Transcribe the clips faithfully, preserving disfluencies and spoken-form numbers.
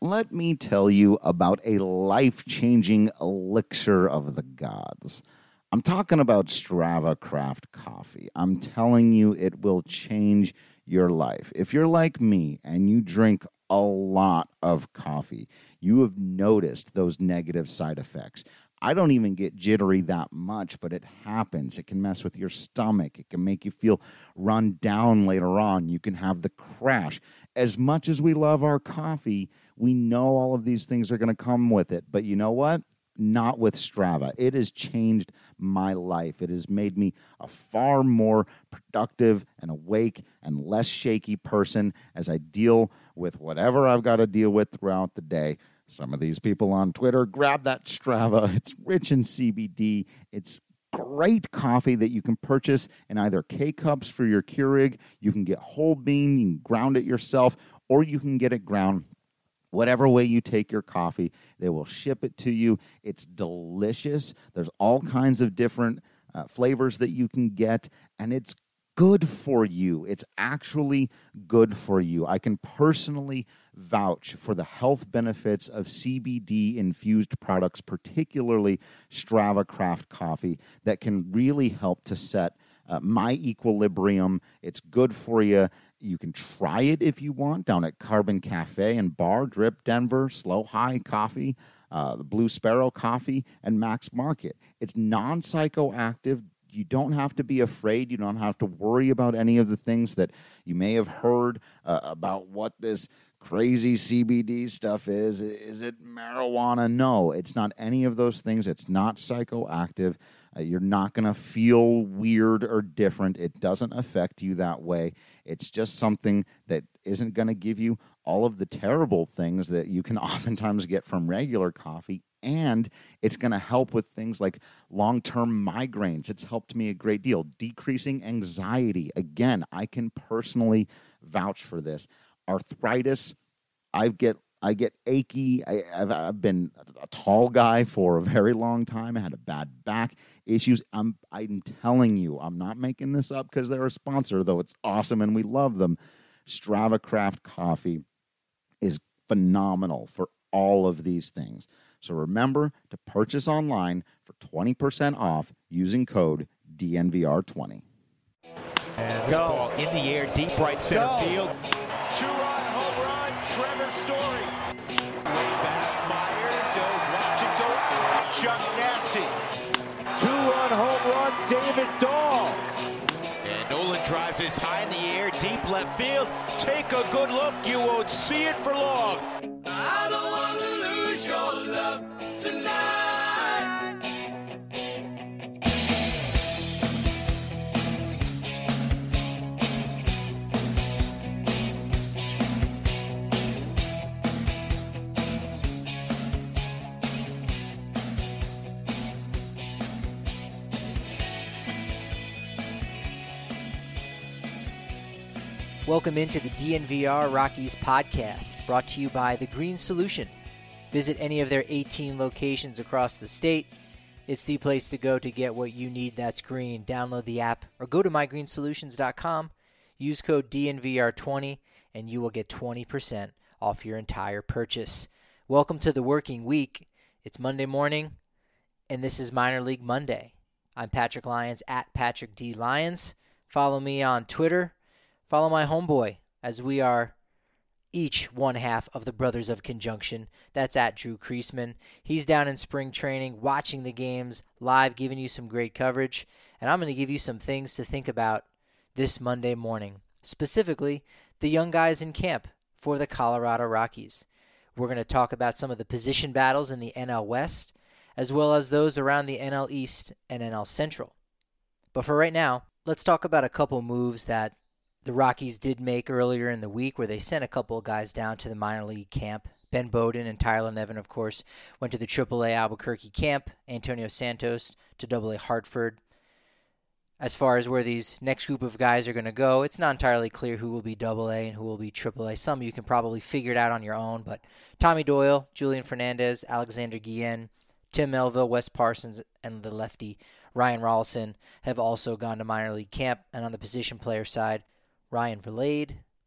let me tell you about a life-changing elixir of the gods. I'm talking about Strava Craft Coffee. I'm telling you, it will change your life. If you're like me and you drink a lot of coffee, you have noticed those negative side effects. I don't even get jittery that much, but it happens. It can mess with your stomach. It can make you feel run down later on. You can have the crash. As much as we love our coffee, we know all of these things are going to come with it. But you know what? Not with Strava. It has changed my life. It has made me a far more productive and awake and less shaky person as I deal with whatever I've got to deal with throughout the day. Some of these people on Twitter, grab that Strava. It's rich in C B D. It's great coffee that you can purchase in either K-Cups for your Keurig. You can get whole bean. You can ground it yourself, or you can get it ground. Whatever way you take your coffee, they will ship it to you. It's delicious. There's all kinds of different uh, flavors that you can get, and it's good for you. It's actually good for you. I can personally vouch for the health benefits of C B D-infused products, particularly Strava Craft Coffee, that can really help to set uh, my equilibrium. It's good for you. You can try it if you want down at Carbon Cafe and Bar, Drip Denver, Slow High Coffee, uh, the Blue Sparrow Coffee, and Max Market. It's non-psychoactive. You don't have to be afraid. You don't have to worry about any of the things that you may have heard uh, about what this crazy C B D stuff is. Is it marijuana? No, it's not any of those things. It's not psychoactive. Uh, you're not going to feel weird or different. It doesn't affect you that way. It's just something that isn't going to give you all of the terrible things that you can oftentimes get from regular coffee. And it's going to help with things like long-term migraines. It's helped me a great deal. Decreasing anxiety. Again, I can personally vouch for this. Arthritis, I get I get achy. I, I've, I've been a tall guy for a very long time. I had a bad back issues. I'm I'm telling you, I'm not making this up because they're a sponsor, though it's awesome and we love them. Strava Craft Coffee is phenomenal for all of these things. So remember to purchase online for twenty percent off using code D N V R twenty. And this ball in the air, deep right center Go. field. Two-run home run, Trevor Story. Way back, Myers, oh, watch it go. Chuck Nasty. Two-run home run, David Dahl. And Nolan drives this high in the air, deep left field. Take a good look, you won't see it for long. I don't want to lose your love tonight. Welcome into the D N V R Rockies podcast, brought to you by The Green Solution. Visit any of their eighteen locations across the state. It's the place to go to get what you need that's green. Download the app or go to my green solutions dot com. Use code D N V R twenty and you will get twenty percent off your entire purchase. Welcome to the working week. It's Monday morning, and this is Minor League Monday. I'm Patrick Lyons at Patrick D. Lyons. Follow me on Twitter. Follow my homeboy, as we are each one half of the Brothers of Conjunction. That's at Drew Kreisman. He's down in spring training, watching the games live, giving you some great coverage. And I'm going to give you some things to think about this Monday morning, specifically the young guys in camp for the Colorado Rockies. We're going to talk about some of the position battles in the N L West, as well as those around the N L East and N L Central. But for right now, let's talk about a couple moves that the Rockies did make earlier in the week, where they sent a couple of guys down to the minor league camp. Ben Bowden and Tyler Nevin, of course, went to the triple A Albuquerque camp. Antonio Santos to double A Hartford. As far as where these next group of guys are going to go, it's not entirely clear who will be double A and who will be triple A. Some of you can probably figure it out on your own, but Tommy Doyle, Julian Fernandez, Alexander Guillen, Tim Melville, Wes Parsons, and the lefty Ryan Rollison have also gone to minor league camp. And on the position player side, Ryan Vilade,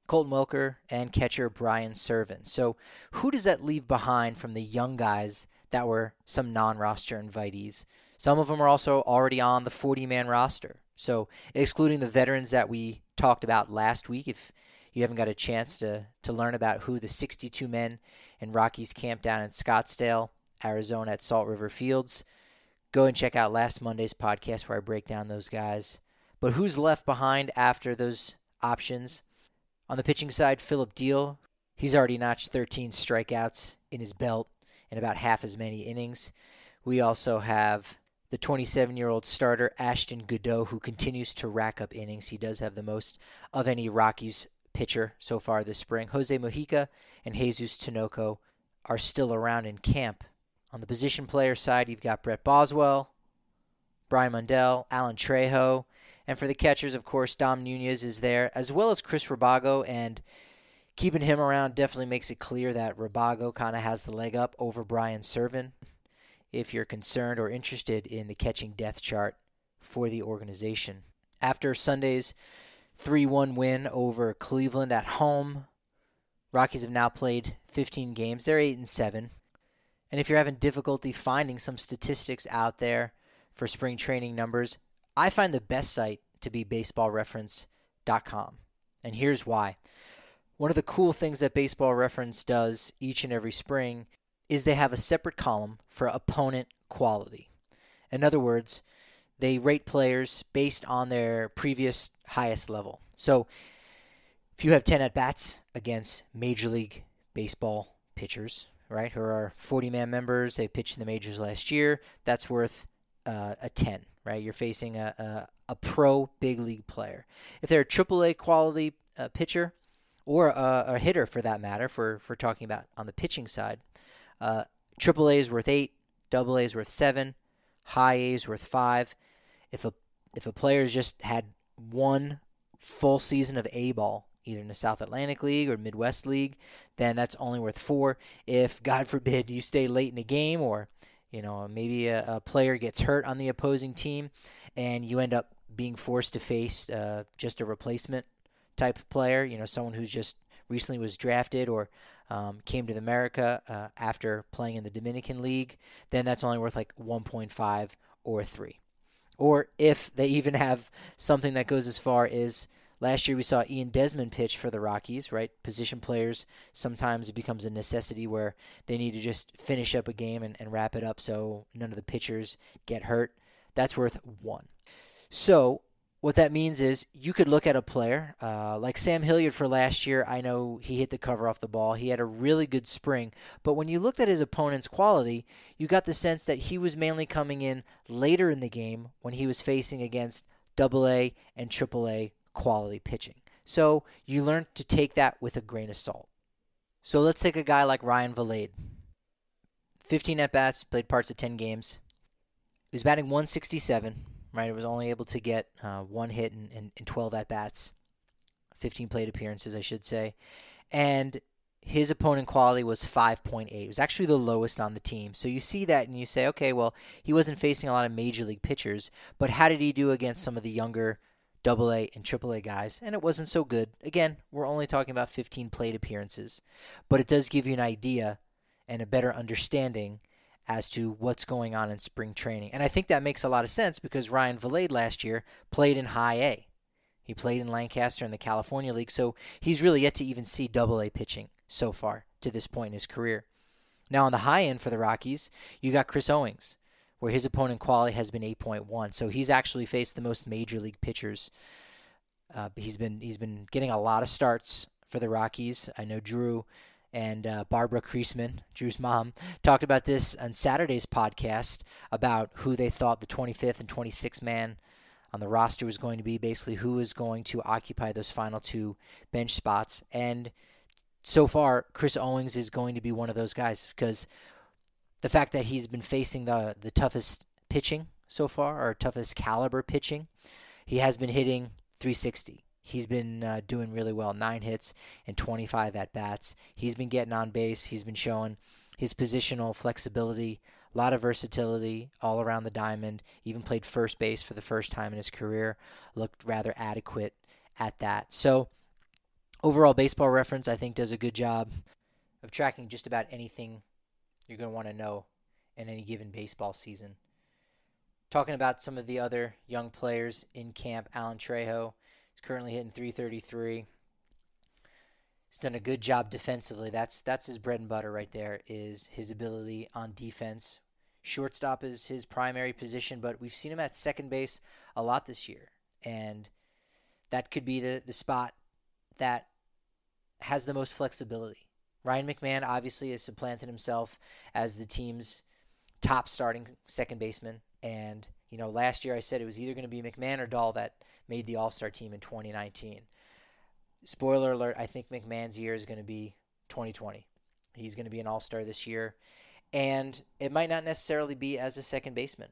Colton Welker, and catcher Brian Serven. So who does that leave behind from the young guys that were some non-roster invitees? Some of them are also already on the forty-man roster. So excluding the veterans that we talked about last week, if you haven't got a chance to, to learn about who the sixty-two men in Rockies camp down in Scottsdale, Arizona at Salt River Fields, go and check out last Monday's podcast where I break down those guys. But who's left behind after those options? On the pitching side, Philip Diehl. He's already notched thirteen strikeouts in his belt in about half as many innings. We also have the twenty-seven-year-old starter, Ashton Goudeau, who continues to rack up innings. He does have the most of any Rockies pitcher so far this spring. Jose Mujica and Jesus Tinoco are still around in camp. On the position player side, you've got Brett Boswell, Brian Mundell, Alan Trejo, and for the catchers, of course, Dom Nunez is there, as well as Chris Rabago, and keeping him around definitely makes it clear that Rabago kind of has the leg up over Brian Serven, if you're concerned or interested in the catching depth chart for the organization. After Sunday's three one win over Cleveland at home, Rockies have now played fifteen games. They're eight and seven. And if you're having difficulty finding some statistics out there for spring training numbers, I find the best site to be baseball reference dot com. And here's why. One of the cool things that Baseball Reference does each and every spring is they have a separate column for opponent quality. In other words, they rate players based on their previous highest level. So if you have ten at-bats against Major League Baseball pitchers, right, who are forty-man members, they pitched in the majors last year, that's worth uh, a ten, right? You're facing a, a, a pro big league player. If they're a triple A quality uh, pitcher, or a, a hitter for that matter, for, for talking about on the pitching side, uh, triple A is worth eight, double A is worth seven, high A is worth five. If a if a player's just had one full season of A ball, either in the South Atlantic League or Midwest League, then that's only worth four. If, God forbid, you stay late in a game, or you know maybe a, a player gets hurt on the opposing team, and you end up being forced to face uh, just a replacement type of player, you know, someone who's just recently was drafted or um, came to America uh, after playing in the Dominican League, then that's only worth like one point five or three. Or if they even have something that goes as far as last year we saw Ian Desmond pitch for the Rockies, right? Position players, sometimes it becomes a necessity where they need to just finish up a game and, and wrap it up so none of the pitchers get hurt. That's worth one. So what that means is you could look at a player uh, like Sam Hilliard for last year. I know he hit the cover off the ball. He had a really good spring. But when you looked at his opponent's quality, you got the sense that he was mainly coming in later in the game when he was facing against double A and triple A quality pitching. So you learned to take that with a grain of salt. So let's take a guy like Ryan Vilade. fifteen at-bats, played parts of ten games. He was batting one sixty-seven. Right, it was only able to get uh, one hit in, in, in twelve at-bats, fifteen plate appearances, I should say. And his opponent quality was five point eight. It was actually the lowest on the team. So you see that and you say, okay, well, he wasn't facing a lot of major league pitchers, but how did he do against some of the younger double A and triple A guys? And it wasn't so good. Again, we're only talking about fifteen plate appearances, but it does give you an idea and a better understanding as to what's going on in spring training. And I think that makes a lot of sense because Ryan Vilade last year played in high A. He played in Lancaster in the California League, so he's really yet to even see double A pitching so far to this point in his career. Now on the high end for the Rockies, you got Chris Owings, where his opponent quality has been eight point one. So he's actually faced the most major league pitchers. Uh, he's been he's been getting a lot of starts for the Rockies. I know Drew and uh, Barbara Kriesman, Drew's mom, talked about this on Saturday's podcast about who they thought the twenty-fifth and twenty-sixth man on the roster was going to be, basically who was going to occupy those final two bench spots. And so far, Chris Owings is going to be one of those guys because the fact that he's been facing the, the toughest pitching so far, or toughest caliber pitching, he has been hitting three sixty. He's been uh, doing really well, nine hits and twenty-five at-bats. He's been getting on base. He's been showing his positional flexibility, a lot of versatility all around the diamond. Even played first base for the first time in his career. Looked rather adequate at that. So Overall Baseball Reference, I think, does a good job of tracking just about anything you're going to want to know in any given baseball season. Talking about some of the other young players in camp, Alan Trejo is currently hitting three thirty-three. He's done a good job defensively. That's that's his bread and butter right there, is his ability on defense. Shortstop is his primary position, but we've seen him at second base a lot this year. And that could be the, the spot that has the most flexibility. Ryan McMahon obviously has supplanted himself as the team's top starting second baseman. And, you know, last year I said it was either going to be McMahon or Dahl that made the All-Star team in twenty nineteen. Spoiler alert, I think McMahon's year is going to be twenty twenty. He's going to be an All-Star this year. And it might not necessarily be as a second baseman.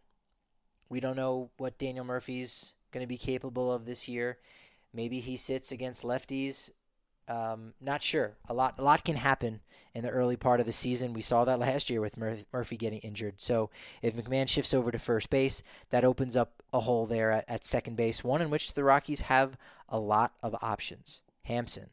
We don't know what Daniel Murphy's going to be capable of this year. Maybe he sits against lefties. Um, not sure. A lot, a lot can happen in the early part of the season. We saw that last year with Mur- Murphy getting injured. So if McMahon shifts over to first base, that opens up a hole there at, at second base, one in which the Rockies have a lot of options. Hampson,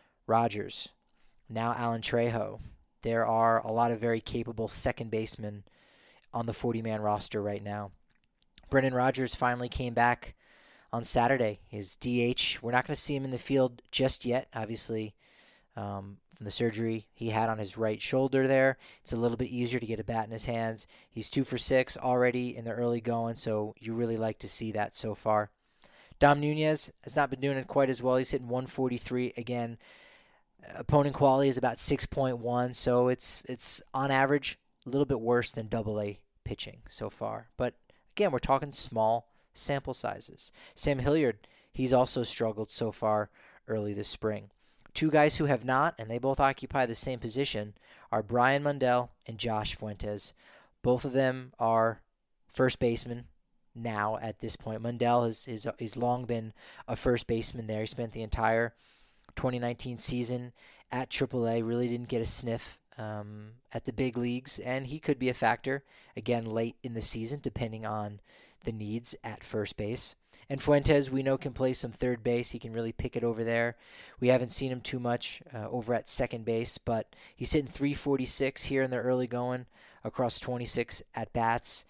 Rogers, now Alan Trejo. There are a lot of very capable second basemen on the forty-man roster right now. Brendan Rodgers finally came back on Saturday. His D H, we're not going to see him in the field just yet, obviously, um, from the surgery he had on his right shoulder there. It's a little bit easier to get a bat in his hands. He's two for six already in the early going, so you really like to see that so far. Dom Nunez has not been doing it quite as well. He's hitting one forty-three again. Opponent quality is about six point one, so it's it's on average a little bit worse than double A pitching so far. But again, we're talking small sample sizes. Sam Hilliard, he's also struggled so far early this spring. Two guys who have not, and they both occupy the same position, are Brian Mundell and Josh Fuentes. Both of them are first basemen now at this point. Mundell has, has, has long been a first baseman there. He spent the entire twenty nineteen season at triple A, really didn't get a sniff um, at the big leagues, and he could be a factor, again, late in the season, depending on the needs at first base. And Fuentes, we know, can play some third base. He can really pick it over there. We haven't seen him too much uh, over at second base, but he's hitting three forty-six here in the early going across twenty-six at-bats.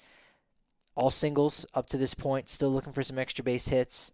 All singles up to this point, still looking for some extra base hits.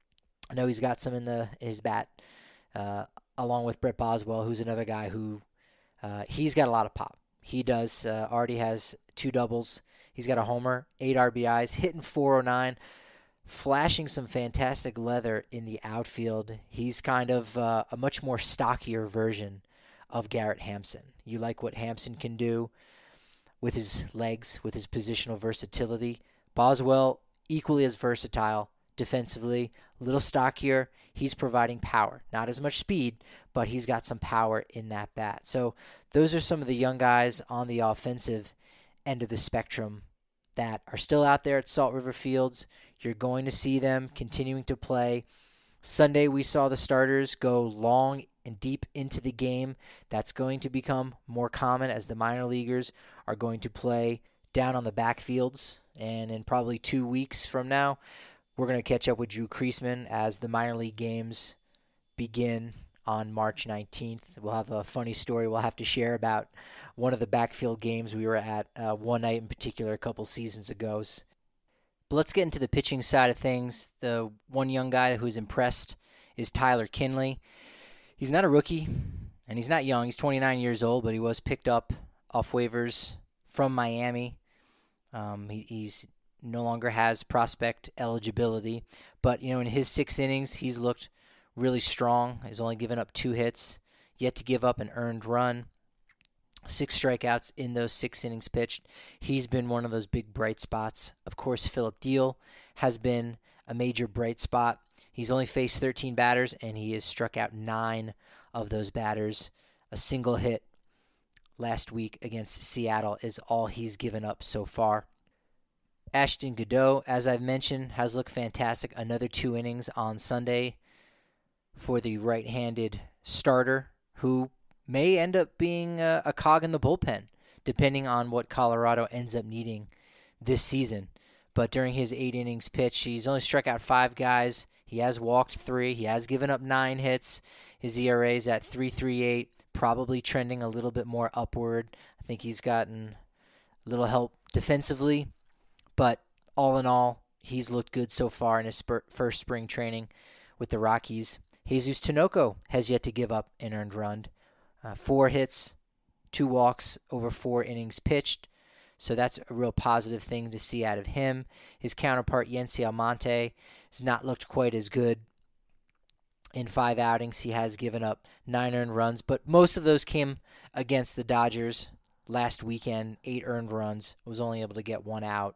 I know he's got some in the in his bat, uh, along with Brett Boswell, who's another guy who uh, he's got a lot of pop. He does, uh, already has two doubles. He's got a homer, eight R B Is, hitting four oh nine, flashing some fantastic leather in the outfield. He's kind of uh, a much more stockier version of Garrett Hampson. You like what Hampson can do with his legs, with his positional versatility. Boswell, equally as versatile defensively, a little stockier. He's providing power. Not as much speed, but he's got some power in that bat. So those are some of the young guys on the offensive end of the spectrum that are still out there at Salt River Fields. You're going to see them continuing to play. Sunday, we saw the starters go long and deep into the game. That's going to become more common as the minor leaguers are going to play down on the backfields. And in probably two weeks from now, we're going to catch up with Drew Creasman as the minor league games begin on March nineteenth. We'll have a funny story we'll have to share about one of the backfield games we were at uh, one night in particular a couple seasons ago. But let's get into the pitching side of things. The one young guy who's impressed is Tyler Kinley. He's not a rookie, and he's not young. He's twenty-nine years old, but he was picked up off waivers from Miami. Um, he, he's no longer has prospect eligibility, but you know, in his six innings, he's looked really strong. He's only given up two hits, yet to give up an earned run. Six strikeouts in those six innings pitched. He's been one of those big bright spots. Of course, Philip Deal has been a major bright spot. He's only faced thirteen batters, and he has struck out nine of those batters. A single hit last week against Seattle is all he's given up so far. Ashton Godot, as I've mentioned, has looked fantastic. Another two innings on Sunday for the right-handed starter, who may end up being a, a cog in the bullpen, depending on what Colorado ends up needing this season. But during his eight innings pitch, he's only struck out five guys. He has walked three. He has given up nine hits. His E R A is at three point three eight, probably trending a little bit more upward. I think he's gotten a little help defensively, but all in all, he's looked good so far in his spur- first spring training with the Rockies. Jesus Tinoco has yet to give up an earned run. Uh, four hits, two walks over four innings pitched. So that's a real positive thing to see out of him. His counterpart, Yency Almonte, has not looked quite as good. In five outings, he has given up nine earned runs, but most of those came against the Dodgers last weekend. Eight earned runs, was only able to get one out.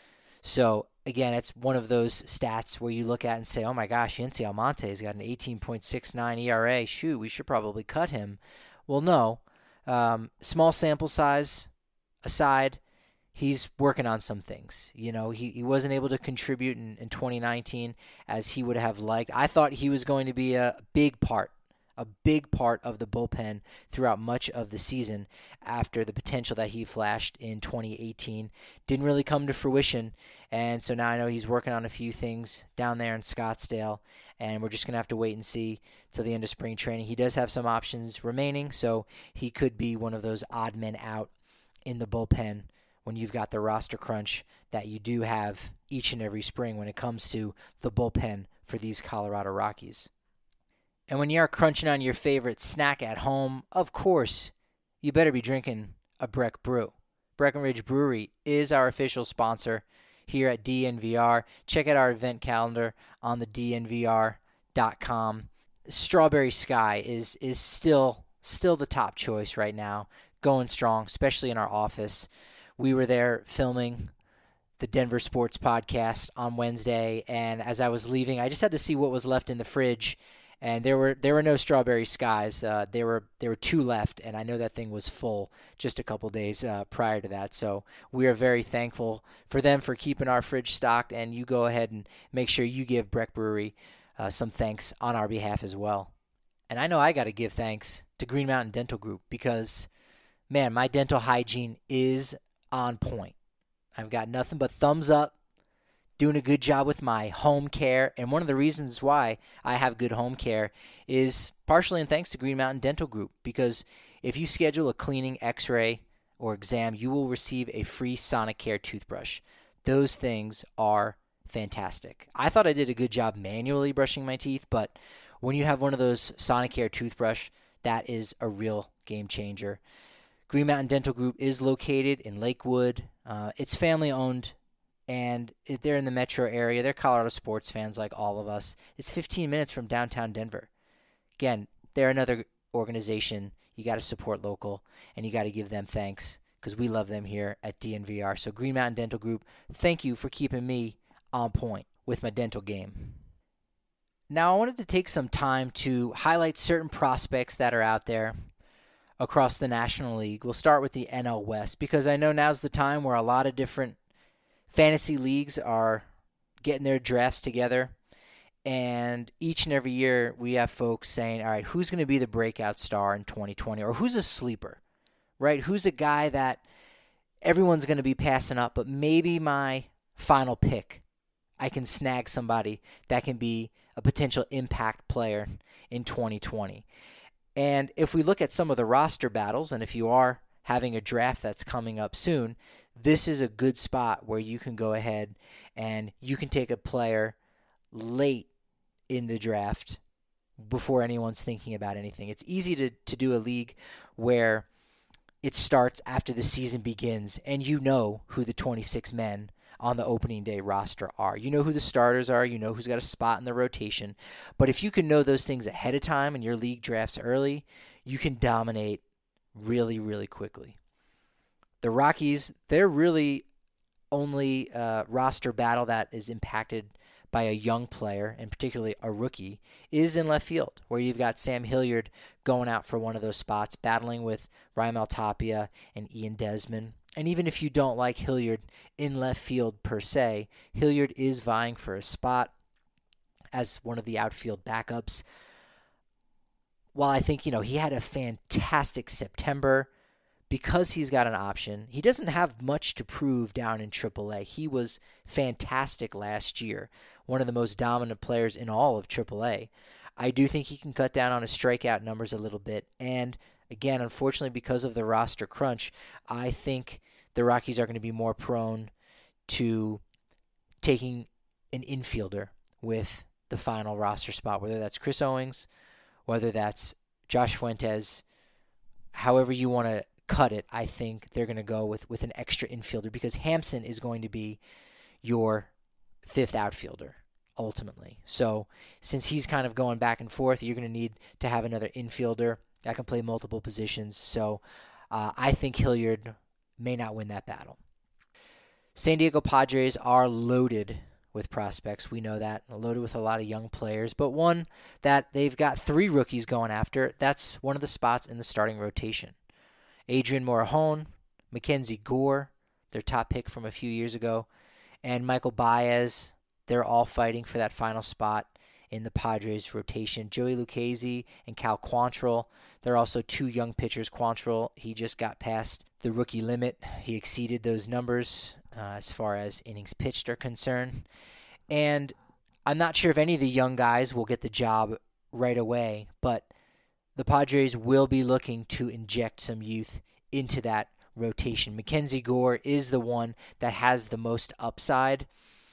So, again, it's one of those stats where you look at and say, oh my gosh, Yency Almonte has got an eighteen point six nine E R A. Shoot, we should probably cut him. Well, no. Um, small sample size aside, he's working on some things. You know, he, he wasn't able to contribute in, in twenty nineteen as he would have liked. I thought he was going to be a big part, a big part of the bullpen throughout much of the season after the potential that he flashed in twenty eighteen didn't really come to fruition. And so now I know he's working on a few things down there in Scottsdale, and we're just going to have to wait and see till the end of spring training. He does have some options remaining, so he could be one of those odd men out in the bullpen when you've got the roster crunch that you do have each and every spring when it comes to the bullpen for these Colorado Rockies. And when you're crunching on your favorite snack at home, of course, you better be drinking a Breck Brew. Breckenridge Brewery is our official sponsor here at D N V R. Check out our event calendar on the D N V R dot com. Strawberry Sky is is still still the top choice right now, going strong, especially in our office. We were there filming the Denver Sports Podcast on Wednesday, and as I was leaving, I just had to see what was left in the fridge, and there were there were no Strawberry Skies. Uh, there were there were two left, and I know that thing was full just a couple days uh, prior to that. So we are very thankful for them for keeping our fridge stocked, and you go ahead and make sure you give Breck Brewery uh, some thanks on our behalf as well. And I know I got to give thanks to Green Mountain Dental Group because, man, my dental hygiene is on point. I've got nothing but thumbs up, doing a good job with my home care. And one of the reasons why I have good home care is partially in thanks to Green Mountain Dental Group, because if you schedule a cleaning, x-ray, or exam, you will receive a free Sonicare toothbrush. Those things are fantastic. I thought I did a good job manually brushing my teeth, but when you have one of those Sonicare toothbrush, that is a real game changer. Green Mountain Dental Group is located in Lakewood. Uh, it's family-owned, and they're in the metro area. They're Colorado sports fans like all of us. It's fifteen minutes from downtown Denver. Again, they're another organization. You got to support local, and you got to give them thanks because we love them here at D N V R. So Green Mountain Dental Group, thank you for keeping me on point with my dental game. Now, I wanted to take some time to highlight certain prospects that are out there across the National League. We'll start with the N L West because I know now's the time where a lot of different fantasy leagues are getting their drafts together, and each and every year we have folks saying, all right, who's going to be the breakout star in twenty twenty, or who's a sleeper, right? Who's a guy that everyone's going to be passing up, but maybe my final pick, I can snag somebody that can be a potential impact player in twenty twenty. And if we look at some of the roster battles, and if you are having a draft that's coming up soon, this is a good spot where you can go ahead and you can take a player late in the draft before anyone's thinking about anything. It's easy to, to do a league where it starts after the season begins and you know who the twenty-six men on the opening day roster are. You know who the starters are. You know who's got a spot in the rotation. But if you can know those things ahead of time and your league drafts early, you can dominate really, really quickly. The Rockies, they're really only uh, roster battle that is impacted by a young player, and particularly a rookie, is in left field, where you've got Sam Hilliard going out for one of those spots, battling with Raimel Tapia and Ian Desmond. And even if you don't like Hilliard in left field per se, Hilliard is vying for a spot as one of the outfield backups. While I think, you know, he had a fantastic September because he's got an option. He doesn't have much to prove down in triple A. He was fantastic last year, one of the most dominant players in all of triple A. I do think he can cut down on his strikeout numbers a little bit. And again, unfortunately, because of the roster crunch, I think the Rockies are going to be more prone to taking an infielder with the final roster spot, whether that's Chris Owings, whether that's Josh Fuentes, however you want to cut it. I think they're going to go with, with an extra infielder because Hampson is going to be your fifth outfielder ultimately. So since he's kind of going back and forth, you're going to need to have another infielder that can play multiple positions. So uh, I think Hilliard may not win that battle. San Diego Padres are loaded with prospects. We know that. Loaded with a lot of young players. But one that they've got three rookies going after, that's one of the spots in the starting rotation. Adrian Morejon, Mackenzie Gore, their top pick from a few years ago, and Michael Baez. They're all fighting for that final spot in the Padres rotation. Joey Lucchesi and Cal Quantrill. They're also two young pitchers. Quantrill, he just got past the rookie limit. He exceeded those numbers uh, as far as innings pitched are concerned. And I'm not sure if any of the young guys will get the job right away, but the Padres will be looking to inject some youth into that rotation. Mackenzie Gore is the one that has the most upside.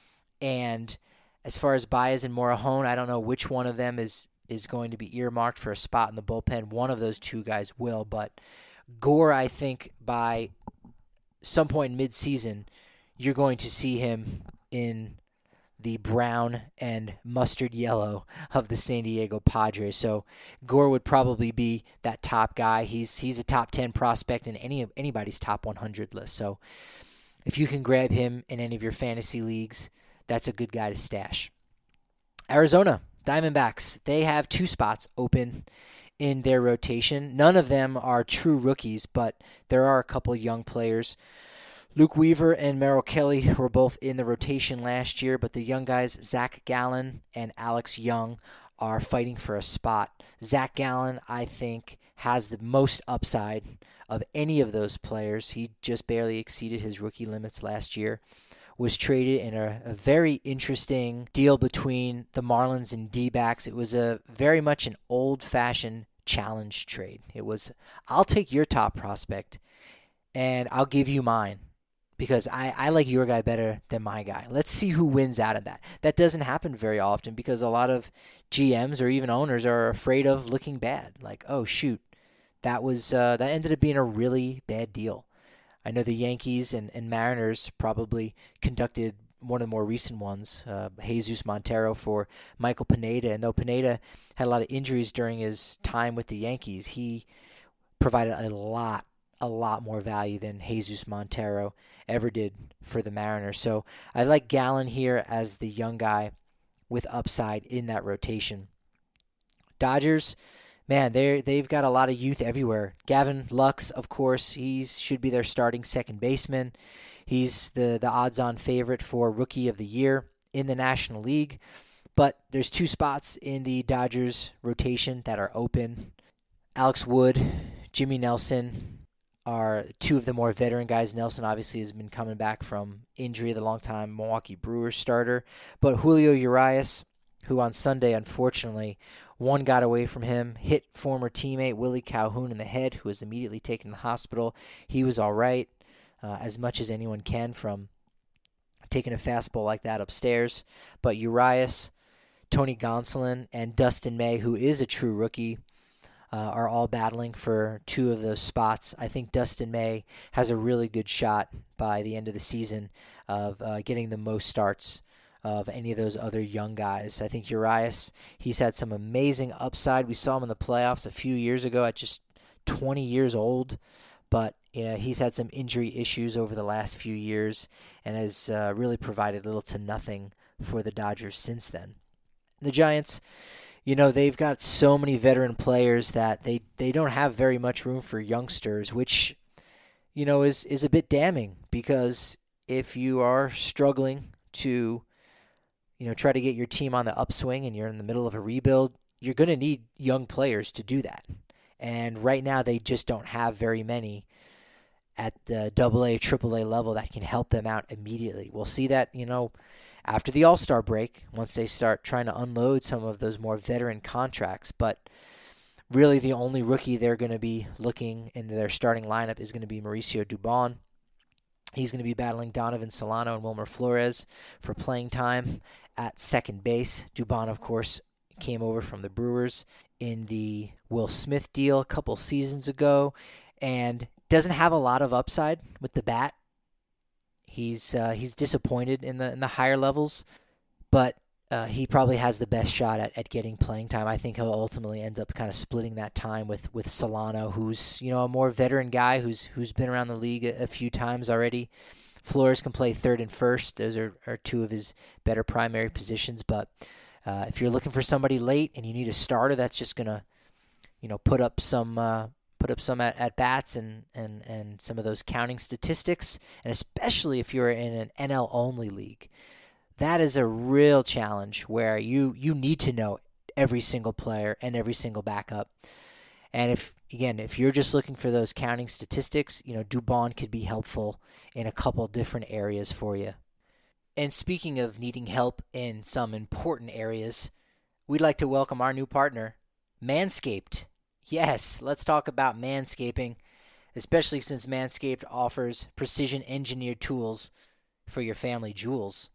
And as far as Baez and Morejon, I don't know which one of them is, is going to be earmarked for a spot in the bullpen. One of those two guys will. But Gore, I think, by some point mid-season, you're going to see him in the brown and mustard yellow of the San Diego Padres. So Gore would probably be that top guy. He's he's a top ten prospect in any anybody's top one hundred list. So if you can grab him in any of your fantasy leagues, that's a good guy to stash. Arizona Diamondbacks, they have two spots open in their rotation. None of them are true rookies, but there are a couple young players. Luke Weaver and Merrill Kelly were both in the rotation last year, but the young guys, Zach Gallen and Alex Young, are fighting for a spot. Zach Gallen, I think, has the most upside of any of those players. He just barely exceeded his rookie limits last year. Was traded in a, a very interesting deal between the Marlins and D-backs. It was a very much an old-fashioned challenge trade. It was, I'll take your top prospect, and I'll give you mine. Because I, I like your guy better than my guy. Let's see who wins out of that. That doesn't happen very often because a lot of G Ms or even owners are afraid of looking bad. Like, oh, shoot, that was uh, that ended up being a really bad deal. I know the Yankees and, and Mariners probably conducted one of the more recent ones, uh, Jesus Montero for Michael Pineda. And though Pineda had a lot of injuries during his time with the Yankees, he provided a lot a lot more value than Jesus Montero ever did for the Mariners. So I like Gallen here as the young guy with upside in that rotation. Dodgers, man, they they've got a lot of youth everywhere. Gavin Lux, of course, he should be their starting second baseman. He's the, the odds-on favorite for Rookie of the Year in the National League. But there's two spots in the Dodgers rotation that are open. Alex Wood, Jimmy Nelson are two of the more veteran guys. Nelson obviously has been coming back from injury, the longtime Milwaukee Brewers starter. But Julio Urias, who on Sunday, unfortunately, one got away from him, hit former teammate Willie Calhoun in the head, who was immediately taken to the hospital. He was all right, uh, as much as anyone can from taking a fastball like that upstairs. But Urias, Tony Gonsolin, and Dustin May, who is a true rookie, Uh, are all battling for two of those spots. I think Dustin May has a really good shot by the end of the season of uh, getting the most starts of any of those other young guys. I think Urias, he's had some amazing upside. We saw him in the playoffs a few years ago at just twenty years old, but yeah, he's had some injury issues over the last few years and has uh, really provided little to nothing for the Dodgers since then. The Giants, you know, they've got so many veteran players that they, they don't have very much room for youngsters, which, you know, is, is a bit damning because if you are struggling to, you know, try to get your team on the upswing and you're in the middle of a rebuild, you're going to need young players to do that. And right now they just don't have very many. at the double A, triple A level that can help them out immediately. We'll see that, you know, after the All-Star break, once they start trying to unload some of those more veteran contracts. But really the only rookie they're going to be looking in their starting lineup is going to be Mauricio Dubon. He's going to be battling Donovan Solano and Wilmer Flores for playing time at second base. Dubon, of course, came over from the Brewers in the Will Smith deal a couple seasons ago and doesn't have a lot of upside with the bat. He's uh, he's disappointed in the in the higher levels, but uh, he probably has the best shot at, at getting playing time. I think he'll ultimately end up kind of splitting that time with, with Solano, who's, you know, a more veteran guy who's who's been around the league a, a few times already. Flores can play third and first. Those are, are two of his better primary positions. But uh, if you're looking for somebody late and you need a starter that's just gonna, you know, put up some uh, put up some at, at bats and, and, and some of those counting statistics, and especially if you're in an N L only league, that is a real challenge where you, you need to know every single player and every single backup. And if, again, if you're just looking for those counting statistics, you know, Dubon could be helpful in a couple different areas for you. And speaking of needing help in some important areas, we'd like to welcome our new partner, Manscaped. Yes, let's talk about manscaping, especially since Manscaped offers precision-engineered tools for your family jewels.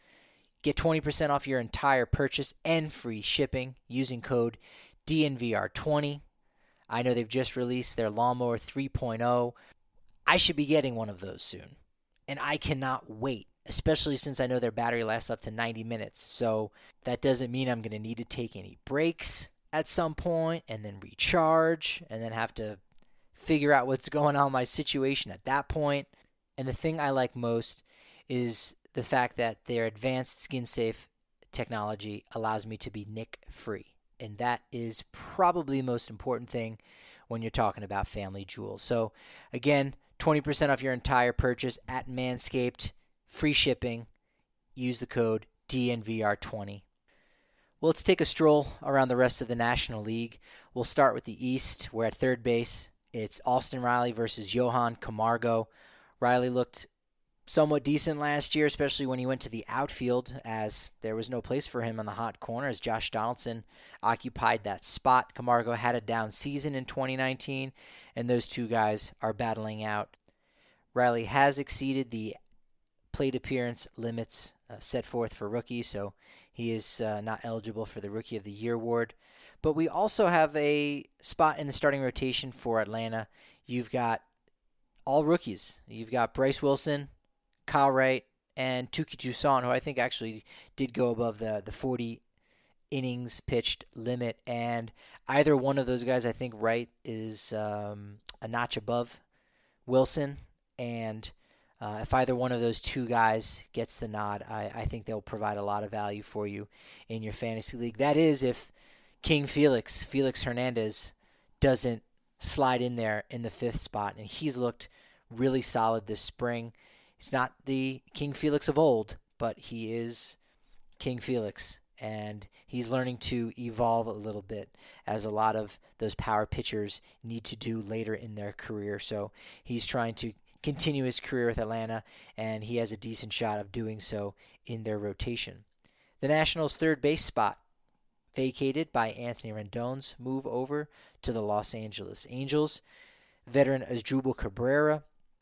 Get twenty percent off your entire purchase and free shipping using code D N V R twenty. I know they've just released their Lawnmower three point oh. I should be getting one of those soon, and I cannot wait, especially since I know their battery lasts up to ninety minutes. So that doesn't mean I'm going to need to take any breaks at some point and then recharge and then have to figure out what's going on in my situation at that point. And the thing I like most is the fact that their advanced skin-safe technology allows me to be nick-free. And that is probably the most important thing when you're talking about family jewels. So, again, twenty percent off your entire purchase at Manscaped, free shipping. Use the code D N V R twenty. Well, let's take a stroll around the rest of the National League. We'll start with the East, where at third base, it's Austin Riley versus Johan Camargo. Riley looked somewhat decent last year, especially when he went to the outfield, as there was no place for him on the hot corner as Josh Donaldson occupied that spot. Camargo had a down season in twenty nineteen, and those two guys are battling out. Riley has exceeded the plate appearance limits uh, set forth for rookies, so he is uh, not eligible for the Rookie of the Year award. But we also have a spot in the starting rotation for Atlanta. You've got all rookies. You've got Bryce Wilson, Kyle Wright, and Touki Toussaint, who I think actually did go above the, the forty innings pitched limit. And either one of those guys, I think Wright is um, a notch above Wilson. And uh, if either one of those two guys gets the nod, I, I think they'll provide a lot of value for you in your fantasy league. That is if King Felix, Felix Hernandez, doesn't slide in there in the fifth spot. And he's looked really solid this spring. He's not the King Felix of old, but he is King Felix, and he's learning to evolve a little bit, as a lot of those power pitchers need to do later in their career. So he's trying to continue his career with Atlanta, and he has a decent shot of doing so in their rotation. The Nationals' third base spot, vacated by Anthony Rendon's move over to the Los Angeles Angels. Veteran Asdrubal Cabrera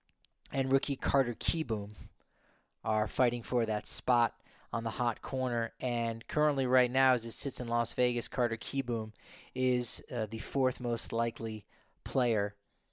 and rookie Carter Kieboom are fighting for that spot on the hot corner. And currently right now, as it sits in Las Vegas, Carter Kieboom is uh, the fourth most likely player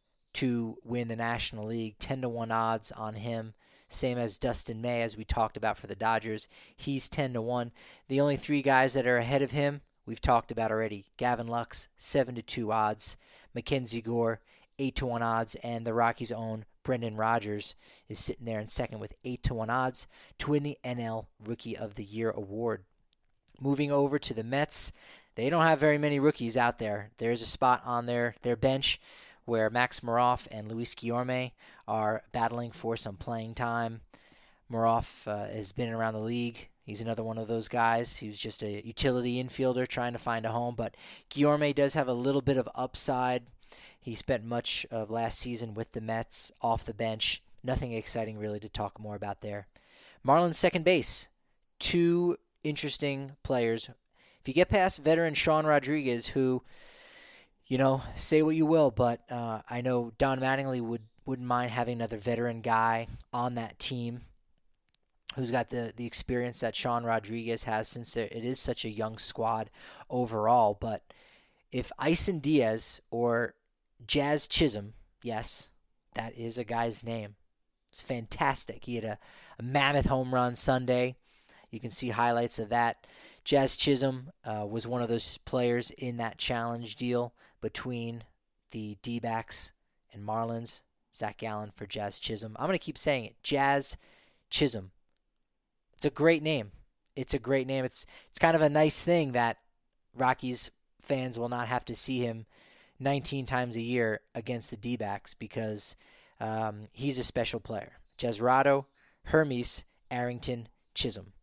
to win the National League. ten to one odds on him, same as Dustin May, as we talked about for the Dodgers. He's ten to one. The only three guys that are ahead of him, we've talked about already. Gavin Lux, seven to two odds. Mackenzie Gore, eight to one odds. And the Rockies' own Brendan Rodgers is sitting there in second with eight to one odds to win the N L Rookie of the Year award. Moving over to the Mets, they don't have very many rookies out there. There's a spot on their, their bench where Max Moroff and Luis Guillorme are battling for some playing time. Moroff uh, has been around the league. He's another one of those guys. He was just a utility infielder trying to find a home, but Guillorme does have a little bit of upside. He spent much of last season with the Mets off the bench. Nothing exciting really to talk more about there. Marlins second base. Two interesting players. If you get past veteran Sean Rodriguez, who, you know, say what you will, but uh, I know Don Mattingly would, wouldn't mind having another veteran guy on that team who's got the, the experience that Sean Rodriguez has, since it is such a young squad overall. But if Isan Diaz or Jazz Chisholm, yes, that is a guy's name. It's fantastic. He had a, a mammoth home run Sunday. You can see highlights of that. Jazz Chisholm uh, was one of those players in that challenge deal between the D-backs and Marlins. Zach Gallen for Jazz Chisholm. I'm going to keep saying it. Jazz Chisholm. It's a great name. It's a great name. It's it's kind of a nice thing that Rockies fans will not have to see him nineteen times a year against the D-backs, because um, he's a special player. Jazrado, Hermes, Arrington, Chisholm.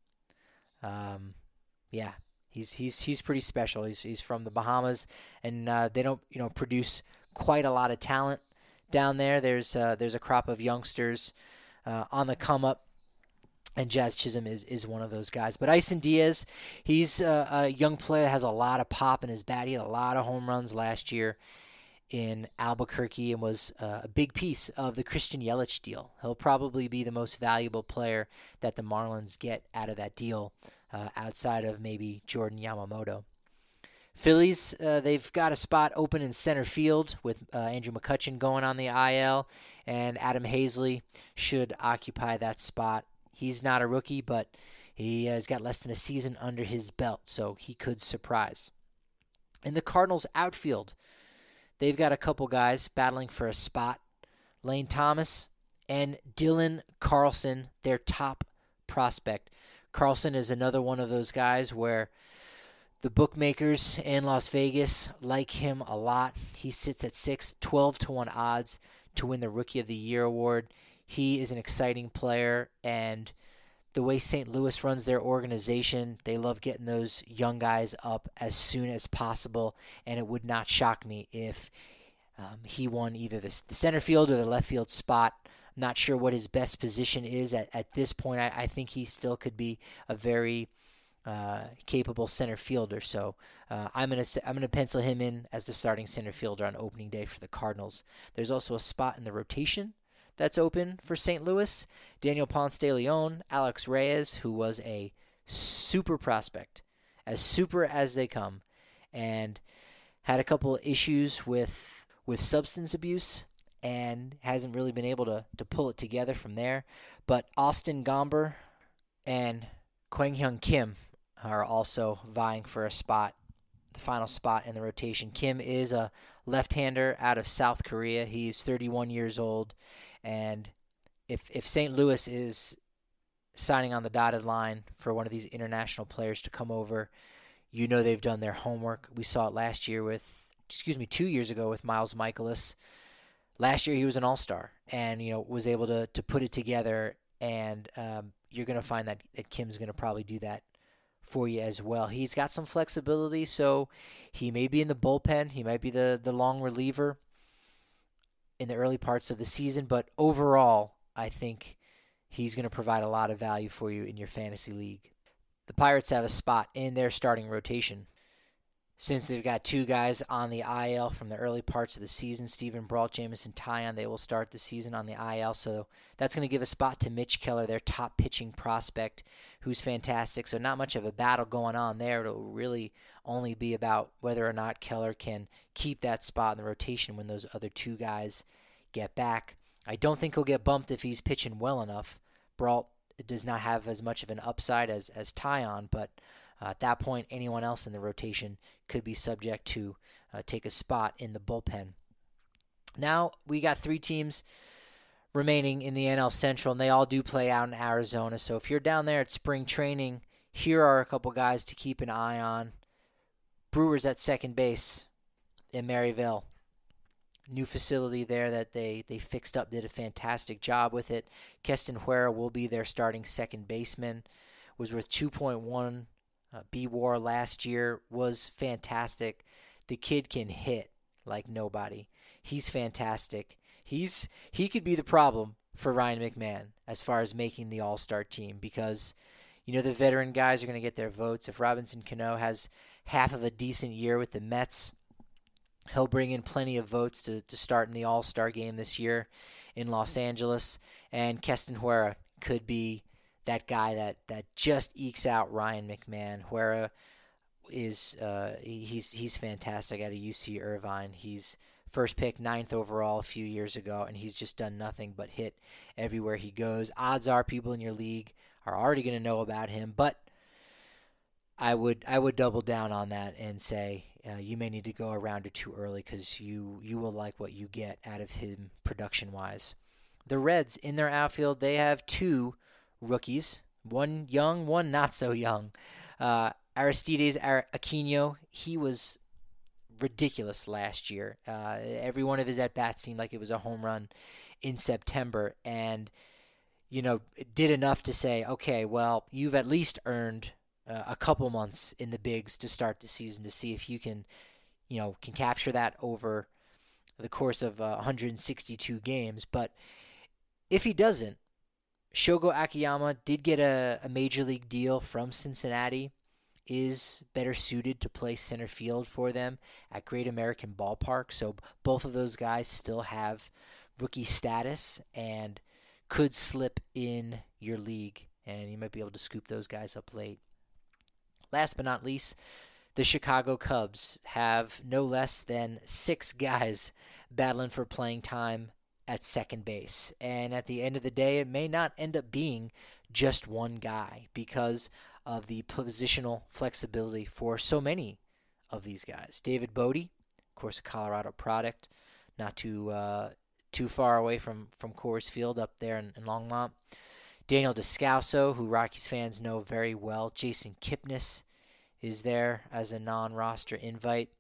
Um, yeah, he's he's he's pretty special. He's he's from the Bahamas, and uh, they don't you know produce quite a lot of talent down there. There's uh, there's a crop of youngsters uh, on the come up, and Jazz Chisholm is, is one of those guys. But Isan Diaz, he's uh, a young player that has a lot of pop in his bat. He had a lot of home runs last year in Albuquerque and was uh, a big piece of the Christian Yelich deal. He'll probably be the most valuable player that the Marlins get out of that deal, uh, outside of maybe Jordan Yamamoto. Phillies, uh, they've got a spot open in center field with uh, Andrew McCutchen going on the I L, and Adam Hazley should occupy that spot. He's not a rookie, but he has got less than a season under his belt, so he could surprise. In the Cardinals outfield, they've got a couple guys battling for a spot. Lane Thomas and Dylan Carlson, their top prospect. Carlson is another one of those guys where the bookmakers in Las Vegas like him a lot. He sits at six, twelve to one odds to win the Rookie of the Year award. He is an exciting player, and the way Saint Louis runs their organization, they love getting those young guys up as soon as possible, and it would not shock me if um, he won either the, the center field or the left field spot. I'm not sure what his best position is at, at this point. I, I think he still could be a very uh, capable center fielder, so uh, I'm gonna I'm gonna pencil him in as the starting center fielder on opening day for the Cardinals. There's also a spot in the rotation that's open for Saint Louis. Daniel Ponce de Leon, Alex Reyes, who was a super prospect, as super as they come, and had a couple of issues with with substance abuse and hasn't really been able to, to pull it together from there. But Austin Gomber and Kwang Hyun Kim are also vying for a spot, the final spot in the rotation. Kim is a left-hander out of South Korea. He's thirty-one years old. And if if Saint Louis is signing on the dotted line for one of these international players to come over, you know they've done their homework. We saw it last year with, excuse me, two years ago with Miles Michaelis. Last year he was an all-star and, you know, was able to, to put it together. And um, you're going to find that, that Kim's going to probably do that for you as well. He's got some flexibility, so he may be in the bullpen. He might be the, the long reliever in the early parts of the season, but overall, I think he's going to provide a lot of value for you in your fantasy league. The Pirates have a spot in their starting rotation. Since they've got two guys on the I L from the early parts of the season, Stephen Brault, Jamison Taillon, they will start the season on the I L, so that's going to give a spot to Mitch Keller, their top pitching prospect, who's fantastic. So not much of a battle going on there. It'll really only be about whether or not Keller can keep that spot in the rotation when those other two guys get back. I don't think he'll get bumped if he's pitching well enough. Brault does not have as much of an upside as, as Taillon, but Uh, at that point, anyone else in the rotation could be subject to uh, take a spot in the bullpen. Now, we got three teams remaining in the N L Central, and they all do play out in Arizona. So if you're down there at spring training, here are a couple guys to keep an eye on. Brewers at second base in Maryville. New facility there that they, they fixed up, did a fantastic job with it. Keston Huera will be their starting second baseman. Was worth two point one Uh, B W A R last year, was fantastic. The kid can hit like nobody. He's fantastic. He's he could be the problem for Ryan McMahon as far as making the All-Star team because, you know, the veteran guys are going to get their votes. If Robinson Cano has half of a decent year with the Mets, he'll bring in plenty of votes to, to start in the All-Star game this year in Los Angeles. And Keston Hiura could be that guy that, that just ekes out Ryan McMahon. Hiura is uh, he's he's fantastic out of U C Irvine. He's first pick, ninth overall a few years ago, and he's just done nothing but hit everywhere he goes. Odds are people in your league are already going to know about him, but I would I would double down on that and say uh, you may need to go a round or two early because you, you will like what you get out of him production-wise. The Reds, in their outfield, they have two rookies, one young, one not so young. Uh, Aristides Aquino, he was ridiculous last year. Uh, every one of his at-bats seemed like it was a home run in September, and, you know, did enough to say, okay, well, you've at least earned uh, a couple months in the bigs to start the season to see if you can, you know, can capture that over the course of uh, one hundred sixty-two games. But if he doesn't, Shogo Akiyama did get a, a major league deal from Cincinnati, is better suited to play center field for them at Great American Ballpark. So both of those guys still have rookie status and could slip in your league, and you might be able to scoop those guys up late. Last but not least, the Chicago Cubs have no less than six guys battling for playing time at second base. And at the end of the day, it may not end up being just one guy because of the positional flexibility for so many of these guys. David Bodie, of course, a Colorado product, not too uh, too far away from, from Coors Field up there in, in Longmont. Daniel Descalso, who Rockies fans know very well. Jason Kipnis is there as a non-roster invite.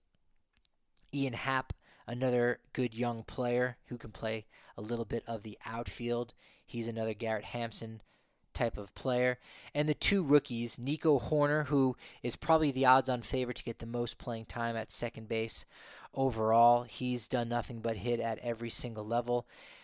Ian Happ, another good young player who can play a little bit of the outfield. He's another Garrett Hampson type of player. And the two rookies, Nico Horner, who is probably the odds-on favorite to get the most playing time at second base overall. He's done nothing but hit at every single level.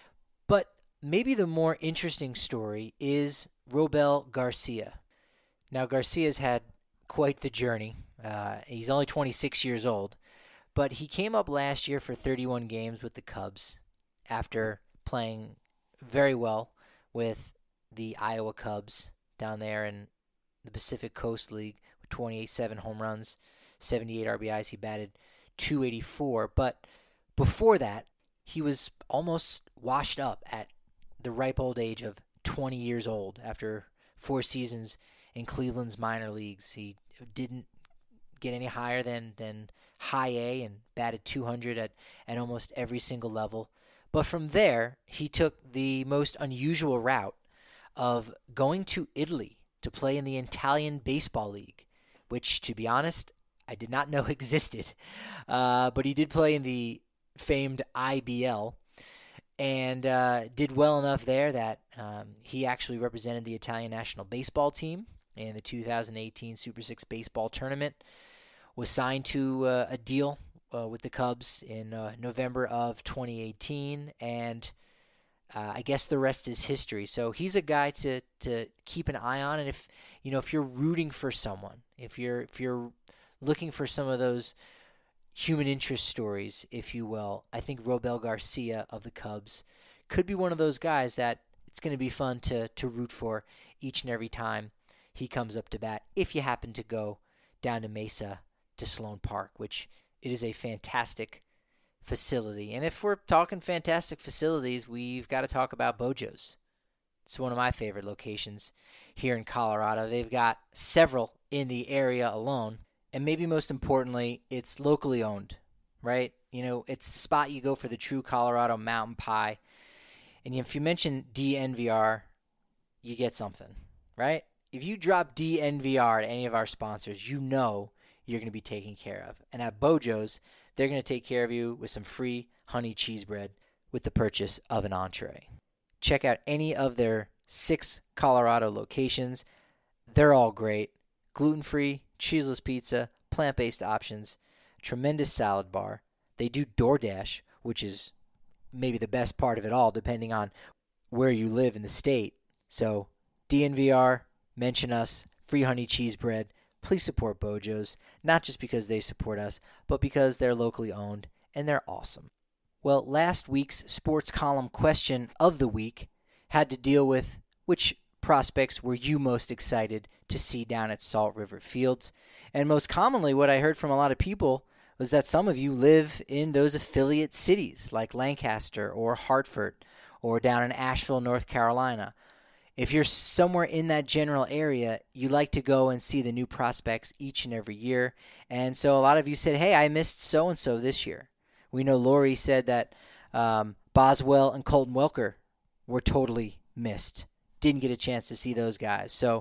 But maybe the more interesting story is Robel Garcia. Now, Garcia's had quite the journey. Uh, he's only twenty-six years old. But he came up last year for thirty-one games with the Cubs after playing very well with the Iowa Cubs down there in the Pacific Coast League with twenty-eight, seven home runs, seventy-eight R B Is. He batted two eighty-four. But before that, he was almost washed up at the ripe old age of twenty years old after four seasons in Cleveland's minor leagues. He didn't get any higher than, than high A and batted two hundred at, at almost every single level. But from there, he took the most unusual route of going to Italy to play in the Italian Baseball League, which, to be honest, I did not know existed. Uh, but he did play in the famed I B L and uh, did well enough there that um, he actually represented the Italian national baseball team in the two thousand eighteen Super Six baseball tournament, was signed to uh, a deal uh, with the Cubs in uh, November of twenty eighteen, and uh, I guess the rest is history. So he's a guy to, to keep an eye on, and if you know if you're rooting for someone, if you're if you're looking for some of those human interest stories, if you will, I think Robel Garcia of the Cubs could be one of those guys that it's going to be fun to to root for each and every time he comes up to bat, if you happen to go down to Mesa to Sloan Park, which it is a fantastic facility. And if we're talking fantastic facilities, we've got to talk about Bojo's. It's one of my favorite locations here in Colorado. They've got several in the area alone. And maybe most importantly, it's locally owned, right? You know, it's the spot you go for the true Colorado mountain pie. And if you mention D N V R, you get something, right? If you drop D N V R to any of our sponsors, you know you're going to be taken care of. And at Bojo's, they're going to take care of you with some free honey cheese bread with the purchase of an entree. Check out any of their six Colorado locations. They're all great. Gluten-free, cheeseless pizza, plant-based options, tremendous salad bar. They do DoorDash, which is maybe the best part of it all, depending on where you live in the state. So D N V R, mention us, free honey cheese bread. Please support Bojo's, not just because they support us, but because they're locally owned and they're awesome. Well, last week's sports column question of the week had to deal with which prospects were you most excited to see down at Salt River Fields. And most commonly, what I heard from a lot of people was that some of you live in those affiliate cities like Lancaster or Hartford or down in Asheville, North Carolina. If you're somewhere in that general area, you like to go and see the new prospects each and every year. And so a lot of you said, hey, I missed so-and-so this year. We know Lori said that um, Boswell and Colton Welker were totally missed. Didn't get a chance to see those guys. So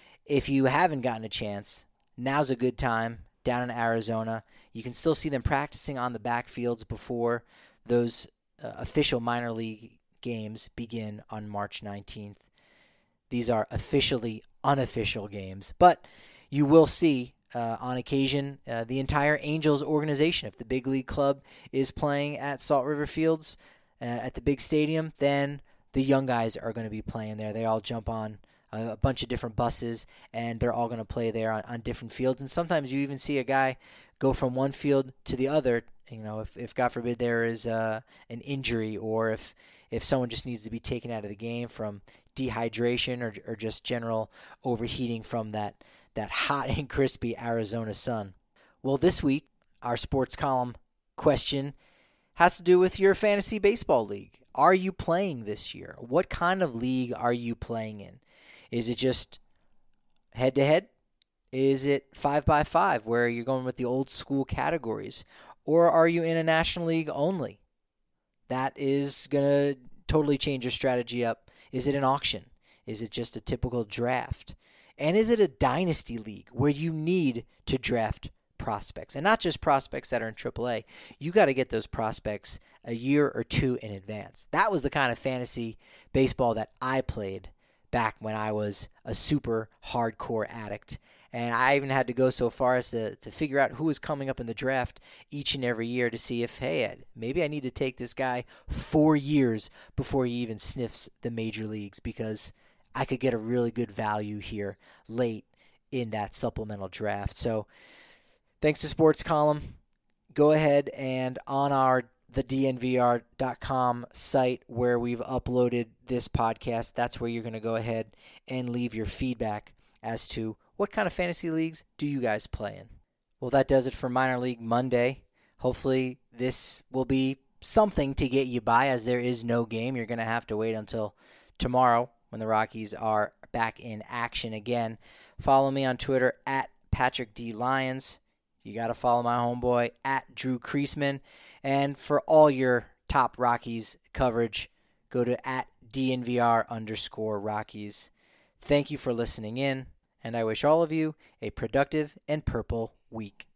if you haven't gotten a chance, now's a good time down in Arizona. You can still see them practicing on the backfields before those uh, official minor league games begin on March nineteenth. These are officially unofficial games, but you will see uh, on occasion uh, the entire Angels organization. If the big league club is playing at Salt River Fields uh, at the big stadium, then the young guys are going to be playing there. They all jump on a, a bunch of different buses, and they're all going to play there on, on different fields. And sometimes you even see a guy go from one field to the other. You know, if, if God forbid there is uh, an injury, or if if someone just needs to be taken out of the game from dehydration or or just general overheating from that, that hot and crispy Arizona sun. Well, this week, our sports column question has to do with your fantasy baseball league. Are you playing this year? What kind of league are you playing in? Is it just head-to-head? Is it five by five, where you're going with the old school categories? Or are you in a national league only? That is going to totally change your strategy up. Is it an auction? Is it just a typical draft? And is it a dynasty league where you need to draft prospects? And not just prospects that are in triple A. You got to get those prospects a year or two in advance. That was the kind of fantasy baseball that I played back when I was a super hardcore addict. And I even had to go so far as to, to figure out who was coming up in the draft each and every year to see if, hey, maybe I need to take this guy four years before he even sniffs the major leagues, because I could get a really good value here late in that supplemental draft. So thanks to Sports Column. Go ahead and on our the D N V R dot com site where we've uploaded this podcast, that's where you're going to go ahead and leave your feedback as to what kind of fantasy leagues do you guys play in. Well, that does it for Minor League Monday. Hopefully this will be something to get you by, as there is no game. You're going to have to wait until tomorrow when the Rockies are back in action again. Follow me on Twitter at Patrick D. Lyons. You got to follow my homeboy at Drew Creasman. And for all your top Rockies coverage, go to at DNVR underscore Rockies. Thank you for listening in, and I wish all of you a productive and purple week.